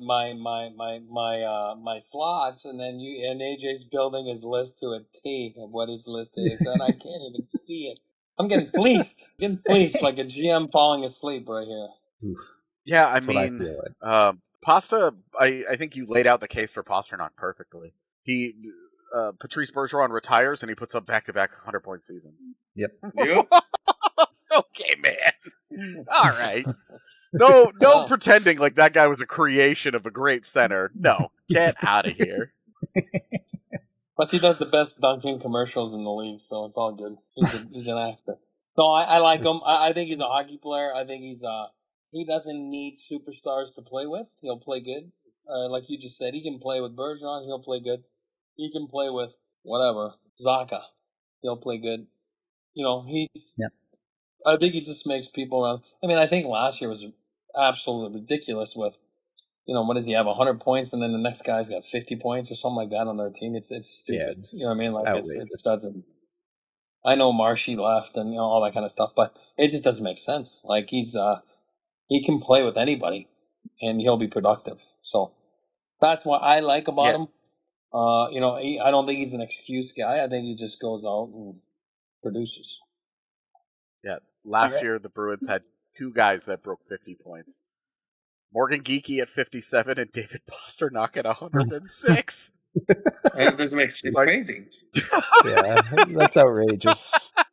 slots, and then AJ's building his list to a T of what his list is, and I can't even see it. I'm getting fleeced, like a GM falling asleep right here. Oof. Yeah, I mean, Pasta. I think you laid out the case for Pasternak perfectly. Patrice Bergeron retires and he puts up back-to-back 100-point seasons. Yep. Okay, man. All right. No pretending like that guy was a creation of a great center. No, get out of here. Plus, he does the best dunking commercials in the league, so it's all good. He's an actor. No, I like him. I think he's a hockey player. I think he doesn't need superstars to play with. He'll play good. Like you just said, he can play with Bergeron. He'll play good. He can play with whatever. Zacha. He'll play good. Yep. I think he just makes people around. I mean, I think last year was absolutely ridiculous with, what does he have, 100 points, and then the next guy's got 50 points or something like that on their team. It's stupid. You know what I mean? Like, it doesn't. I know Marshy left and all that kind of stuff, but it just doesn't make sense. Like, he can play with anybody, and he'll be productive. So that's what I like about him. I don't think he's an excuse guy. I think he just goes out and produces. Yeah, last year the Bruins had two guys that broke 50 points. Morgan Geekie at 57 and David Pasternak at 106. It doesn't make sense. It's crazy. Yeah, that's outrageous.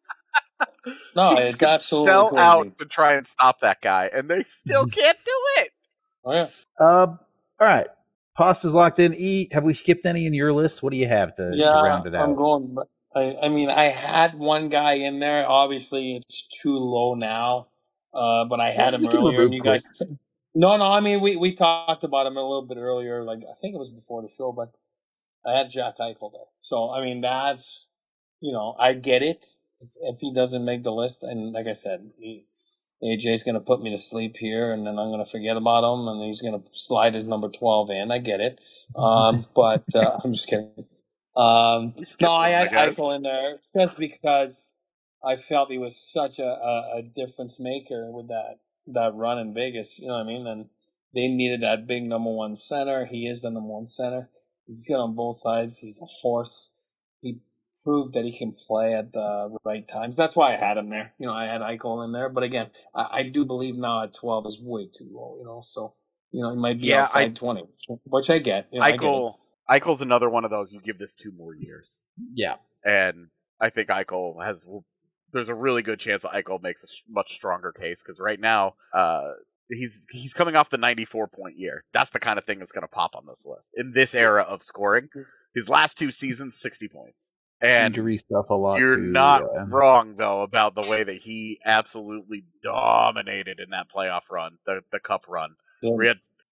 No, it's absolutely sell crazy. out to try and stop that guy, and they still can't do it. Oh yeah. All right. Pasta's locked in. Have we skipped any in your list? What do you have to round it out? I'm going. I mean, I had one guy in there. Obviously, it's too low now. But I had him earlier, and you guys. No. I mean, we talked about him a little bit earlier. Like I think it was before the show, but I had Jack Eichel there. So I mean, that's I get it if he doesn't make the list, and like I said, AJ's going to put me to sleep here, and then I'm going to forget about him, and he's going to slide his number 12 in. I get it. But I'm just kidding. No, I had Eichel in there just because I felt he was such a difference maker with that run in Vegas. You know what I mean? And they needed that big number one center. He is the number one center. He's good on both sides. He's a horse. He proved that he can play at the right times. That's why I had him there. I had Eichel in there. But again, I do believe now at 12 is way too low, So, he might be outside 20, which I get. Eichel's another one of those, you give this 2 more years. Yeah. And I think there's a really good chance that Eichel makes a much stronger case, because right now, he's coming off the 94-point year. That's the kind of thing that's going to pop on this list. In this era of scoring, his last 2 seasons, 60 points. And injury stuff a lot. You're not wrong, though, about the way that he absolutely dominated in that playoff run, the cup run. Yeah.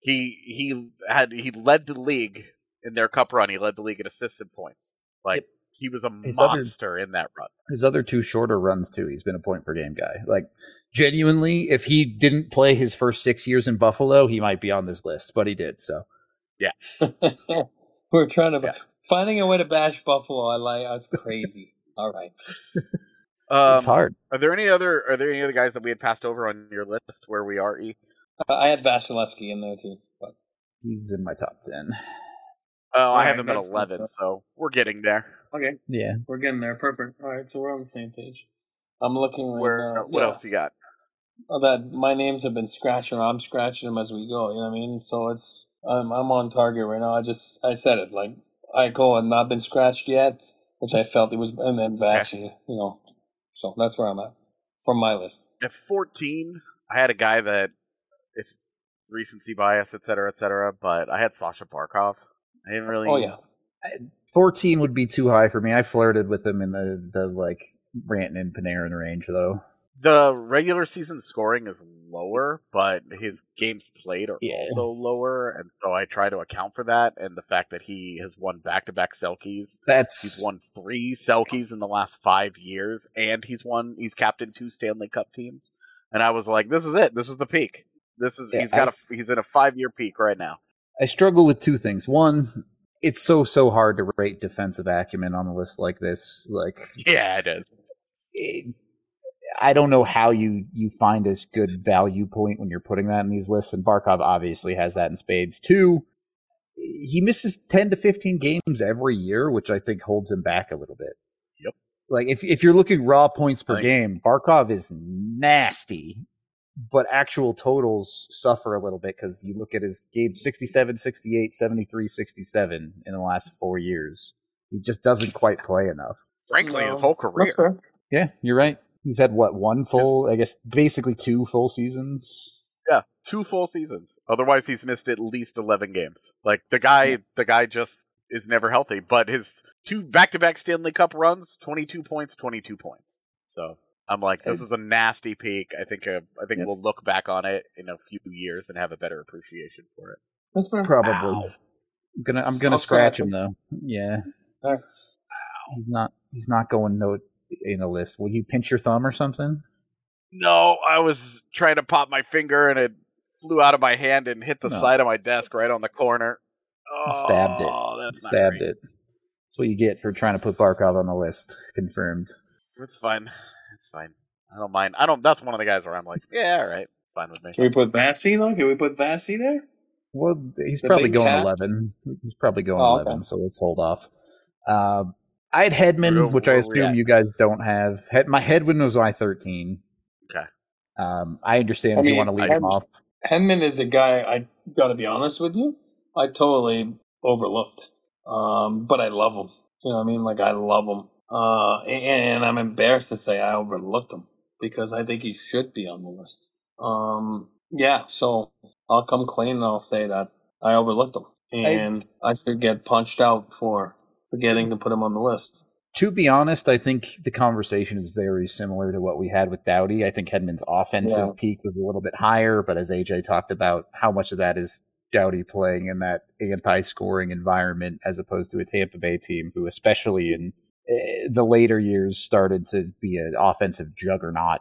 He led the league in their cup run. He led the league in assists and points. He was a monster in that run. His other 2 shorter runs, too. He's been a point per game guy. Like, genuinely, if he didn't play his first 6 years in Buffalo, he might be on this list, but he did, so. Yeah. We're trying to finding a way to bash Buffalo. That's crazy. All right. It's hard. Are there any other guys that we had passed over on your list where we are, E? I had Vasilevsky in there, too. But he's in my top 10. Oh, I have him at 11, so we're getting there. Okay. Yeah. We're getting there. Perfect. All right, so we're on the same page. I'm looking right now. What else you got? That my names have been scratched, and I'm scratching them as we go. You know what I mean? So I'm on target right now. I said it, like Eichel had not been scratched yet, which I felt it was, and then Vassy, So that's where I'm at from my list. At 14, I had a guy that, if recency bias, et cetera, but I had Sasha Barkov. I didn't really. Oh yeah. 14 would be too high for me. I flirted with him in the like Rantanen and Panarin range, though. The regular season scoring is lower, but his games played are also lower, and so I try to account for that, and the fact that he has won back-to-back Selkies. He's won 3 Selkies in the last 5 years, and he's captained 2 Stanley Cup teams. And I was like, this is it. This is the peak. He's in a 5-year peak right now. I struggle with 2 things. One, it's so hard to rate defensive acumen on a list like this. Yeah, it is. I don't know how you find a good value point when you're putting that in these lists, and Barkov obviously has that in spades. 2, he misses 10 to 15 games every year, which I think holds him back a little bit. Yep. Like, if you're looking raw points per game, Barkov is nasty, but actual totals suffer a little bit because you look at his game 67, 68, 73, 67 in the last 4 years. He just doesn't quite play enough. Frankly, his whole career. Yeah, you're right. He's had basically 2 full seasons. Yeah, 2 full seasons. Otherwise, he's missed at least 11 games. Like the guy just is never healthy. But his 2 back-to-back Stanley Cup runs, 22 points. So I'm like, this is a nasty peak. I think we'll look back on it in a few years and have a better appreciation for it. That's probably. I'm gonna scratch him though. Yeah. Wow. He's not going in the list. Will you pinch your thumb or something? No, I was trying to pop my finger and it flew out of my hand and hit the side of my desk right on the corner. Stabbed it. That's what you get for trying to put Barkov on the list. Confirmed. It's fine. I don't mind. That's one of the guys where I'm like, yeah, all right. It's fine with me. Can we put Vasi though? Can we put Vasi there? Well, he's probably going 11. He's probably going 11, so let's hold off. I had Hedman, which I assume you guys don't have. My Hedman was my 13. Okay. I understand if you want to leave him off. Hedman is a guy, I got to be honest with you, I totally overlooked. But I love him. You know what I mean? Like, I love him. And I'm embarrassed to say I overlooked him because I think he should be on the list. Yeah, so I'll come clean and I'll say that I overlooked him. And I should get punched out for forgetting to put him on the list. To be honest, I think the conversation is very similar to what we had with Doughty. I think Hedman's offensive peak was a little bit higher, but as AJ talked about, how much of that is Doughty playing in that anti-scoring environment as opposed to a Tampa Bay team who, especially in the later years, started to be an offensive juggernaut.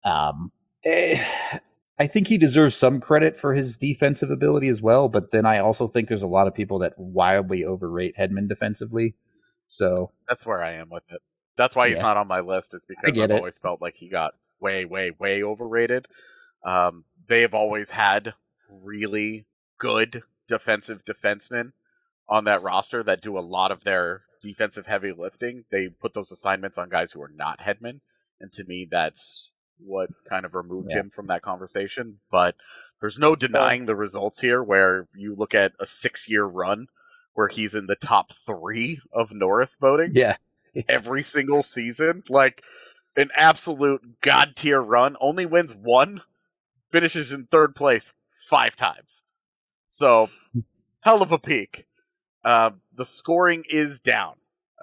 I think he deserves some credit for his defensive ability as well, but then I also think there's a lot of people that wildly overrate Hedman defensively. So that's where I am with it. That's why he's not on my list. It's because I've always felt like he got way, way, way overrated. They have always had really good defensive defensemen on that roster that do a lot of their defensive heavy lifting. They put those assignments on guys who are not Hedman, and to me, that's what kind of removed him from that conversation. But there's no denying the results here, where you look at a 6-year run where he's in the top 3 of Norris voting every single season. Like, an absolute god tier run. Only wins 1, finishes in 3rd place 5 times. So, hell of a peak. The scoring is down.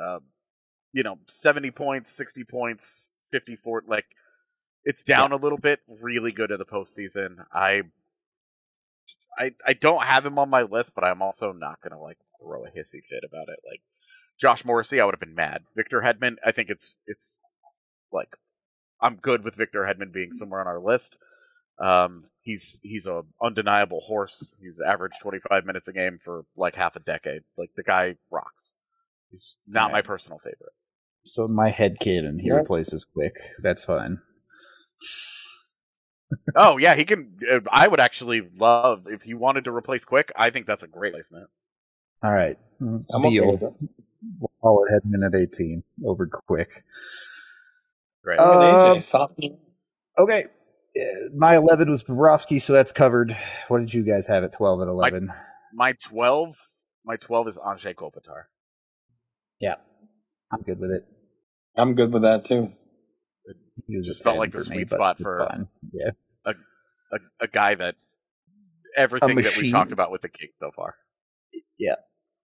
70 points, 60 points, 54. Like, it's down a little bit. Really good in the postseason. I don't have him on my list, but I'm also not gonna throw a hissy fit about it. Like Josh Morrissey, I would have been mad. Victor Hedman, I think it's like I'm good with Victor Hedman being somewhere on our list. He's a undeniable horse. He's averaged 25 minutes a game for like half a decade. Like the guy rocks. He's not my personal favorite. So my head kid and he replaces Quick. That's fine. Oh yeah, he can. I would actually love if he wanted to replace Quick. I think that's a great placement. All right, deal. Okay, we'll call it Hedman at 18 over Quick. Great. Okay, my 11 was Bobrovsky, so that's covered. What did you guys have at 12 and 11? My 12 is Anze Kopitar. Yeah, I'm good with it. I'm good with that too. It just felt like the sweet spot for a guy that everything that we talked about with the King so far. Yeah.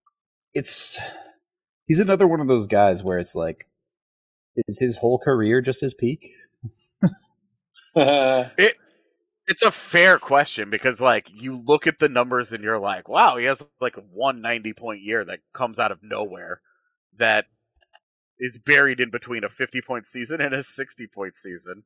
He's another one of those guys where it's like, is his whole career just his peak? It's a fair question because, like, you look at the numbers and you're like, wow, he has like a 190-point year that comes out of nowhere that is buried in between a 50-point season and a 60-point season.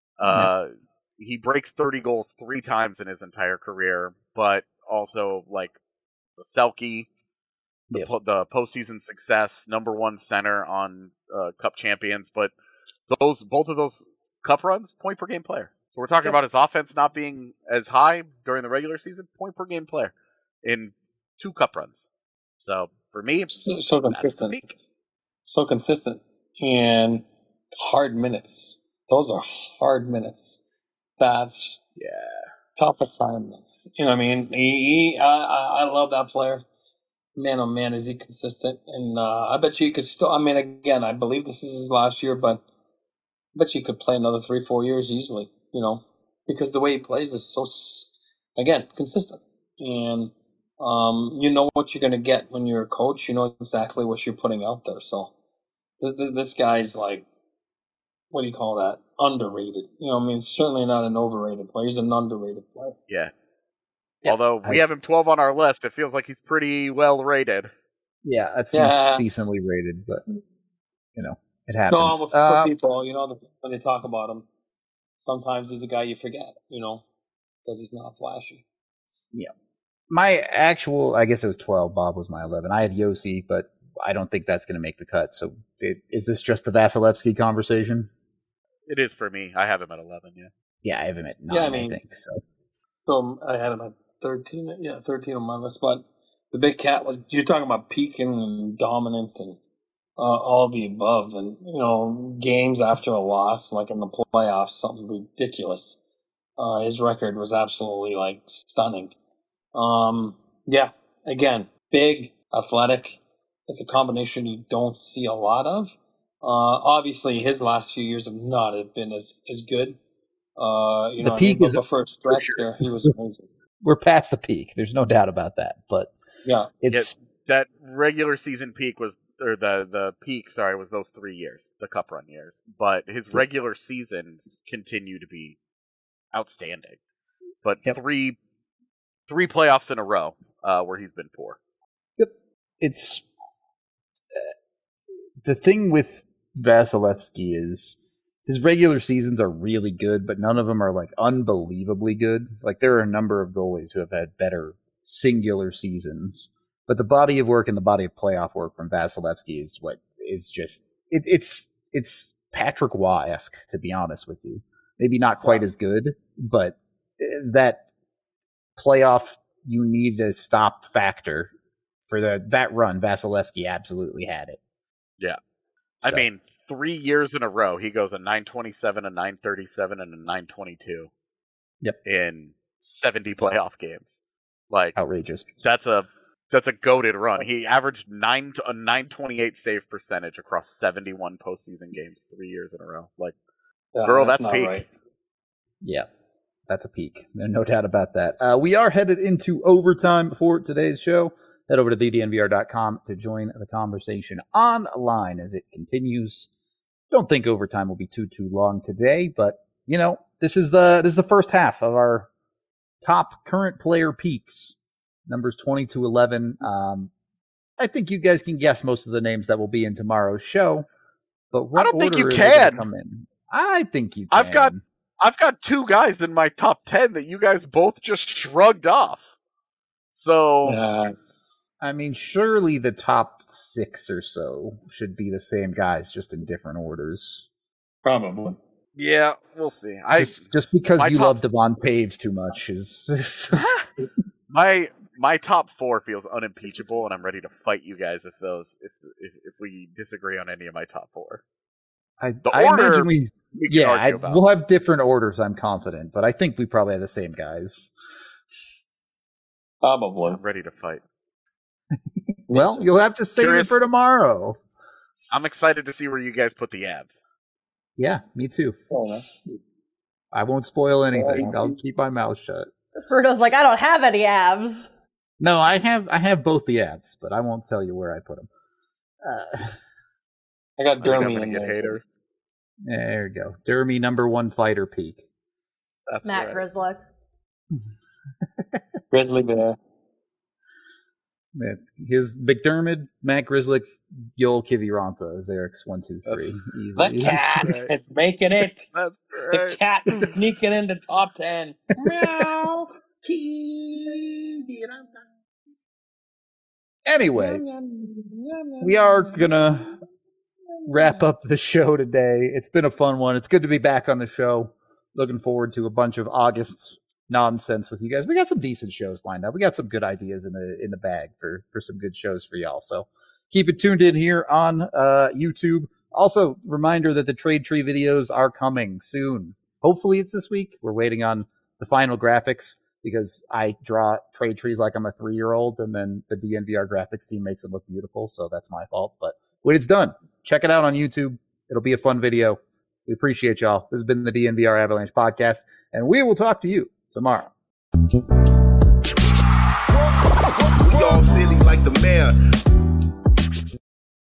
He breaks 30 goals 3 times in his entire career, but also, like, the Selke, the postseason success, number 1 center on Cup champions, but both of those Cup runs, point per game player. So we're talking about his offense not being as high during the regular season, point per game player in 2 Cup runs. So for me, so consistent. So consistent and hard minutes. Those are hard minutes. That's tough assignments. You know what I mean? I love that player. Man, oh man, is he consistent? And I bet you he could still. I mean, again, I believe this is his last year, but I bet you could play another 3-4 years easily. You know, because the way he plays is so, again, consistent. And you know what you're going to get when you're a coach. You know exactly what you're putting out there. So this guy's like, what do you call that? Underrated. You know, I mean, certainly not an overrated player. He's an underrated player. Yeah. Although we have him 12 on our list, it feels like he's pretty well rated. Yeah, that seems decently rated, but, you know, it happens. No, for people, you know, when they talk about him, sometimes he's a guy you forget, you know, because he's not flashy. Yeah. My actual, I guess it was 12. Bob was my 11. I had Yossi, but I don't think that's going to make the cut. So is this just the Vasilevsky conversation? It is for me. I have him at 11, yeah. Yeah, I have him at 9, I think. So I had him at 13. Yeah, 13 on my list. But the big cat was, you're talking about peaking and dominant and all the above. And, you know, games after a loss, like in the playoffs, something ridiculous. His record was absolutely, like, stunning. Yeah, again, big, athletic. It's a combination you don't see a lot of. Obviously, his last few years have not been as good. You know, the peak is but for a stretch there, he was amazing. We're past the peak. There's no doubt about that. But it's that regular season peak was, or the peak, sorry, was those 3 years, the Cup run years. But his regular seasons continue to be outstanding. But three playoffs in a row where he's been poor. Yep. It's the thing with Vasilevsky is his regular seasons are really good, but none of them are like unbelievably good. Like there are a number of goalies who have had better singular seasons, but the body of work and the body of playoff work from Vasilevsky is what is just it's Patrick Waugh-esque, to be honest with you. Maybe not quite as good, but that playoff you need to stop factor for that run, Vasilevsky absolutely had it. Yeah. So. I mean, 3 years in a row, he goes a 927, a 937, and a 922. Yep. In 70 playoff games. Like outrageous. That's a goated run. He averaged a 928 save percentage across 71 postseason games 3 years in a row. Like, girl, that's peak. Right. Yeah. That's a peak. There's no doubt about that. We are headed into overtime for today's show. Head over to thednvr.com to join the conversation online as it continues. Don't think overtime will be too long today, but you know, this is the first half of our top current player peaks, numbers 20 to 11. I think you guys can guess most of the names that will be in tomorrow's show, but what I don't think you order can. Come in? I think you can. I've got 2 guys in my top 10 that you guys both just shrugged off. So, I mean, surely the top 6 or so should be the same guys, just in different orders. Probably. Yeah, we'll see. Just because you love Devon Paves too much is my top 4 feels unimpeachable, and I'm ready to fight you guys if we disagree on any of my top 4. I imagine we'll have different orders, I'm confident, but I think we probably have the same guys. Probably. I'm ready to fight. Well, you'll have to save it for tomorrow. I'm excited to see where you guys put the ads. Yeah, me too. I won't spoil anything. I'll keep my mouth shut. Bruno's like, I don't have any abs. No, I have both the abs, but I won't tell you where I put them. I got Dermy in there. Haters. There you go. Dermy number 1 fighter peak. That's Matt right. Grizzly. Grizzly Bear. Man, his McDermott, Matt Grizzly, Yoel Kiviranta is Eric's 1, 2, 3. The Easy. cat right. is making it. That's The right. cat sneaking into top 10. Meow. Anyway, we are gonna wrap up the show today. It's been a fun one. It's good to be back on the show. Looking forward to a bunch of August nonsense with you guys. We got some decent shows lined up. We got some good ideas in the bag for some good shows for y'all. So keep it tuned in here on YouTube. Also, reminder that the Trade Tree videos are coming soon. Hopefully it's this week. We're waiting on the final graphics because I draw trade trees like I'm a 3-year-old, and then the DNVR graphics team makes it look beautiful. So that's my fault. But when it's done, check it out on YouTube. It'll be a fun video. We appreciate y'all. This has been the DNVR Avalanche podcast, and we will talk to you tomorrow. We all silly like the mayor.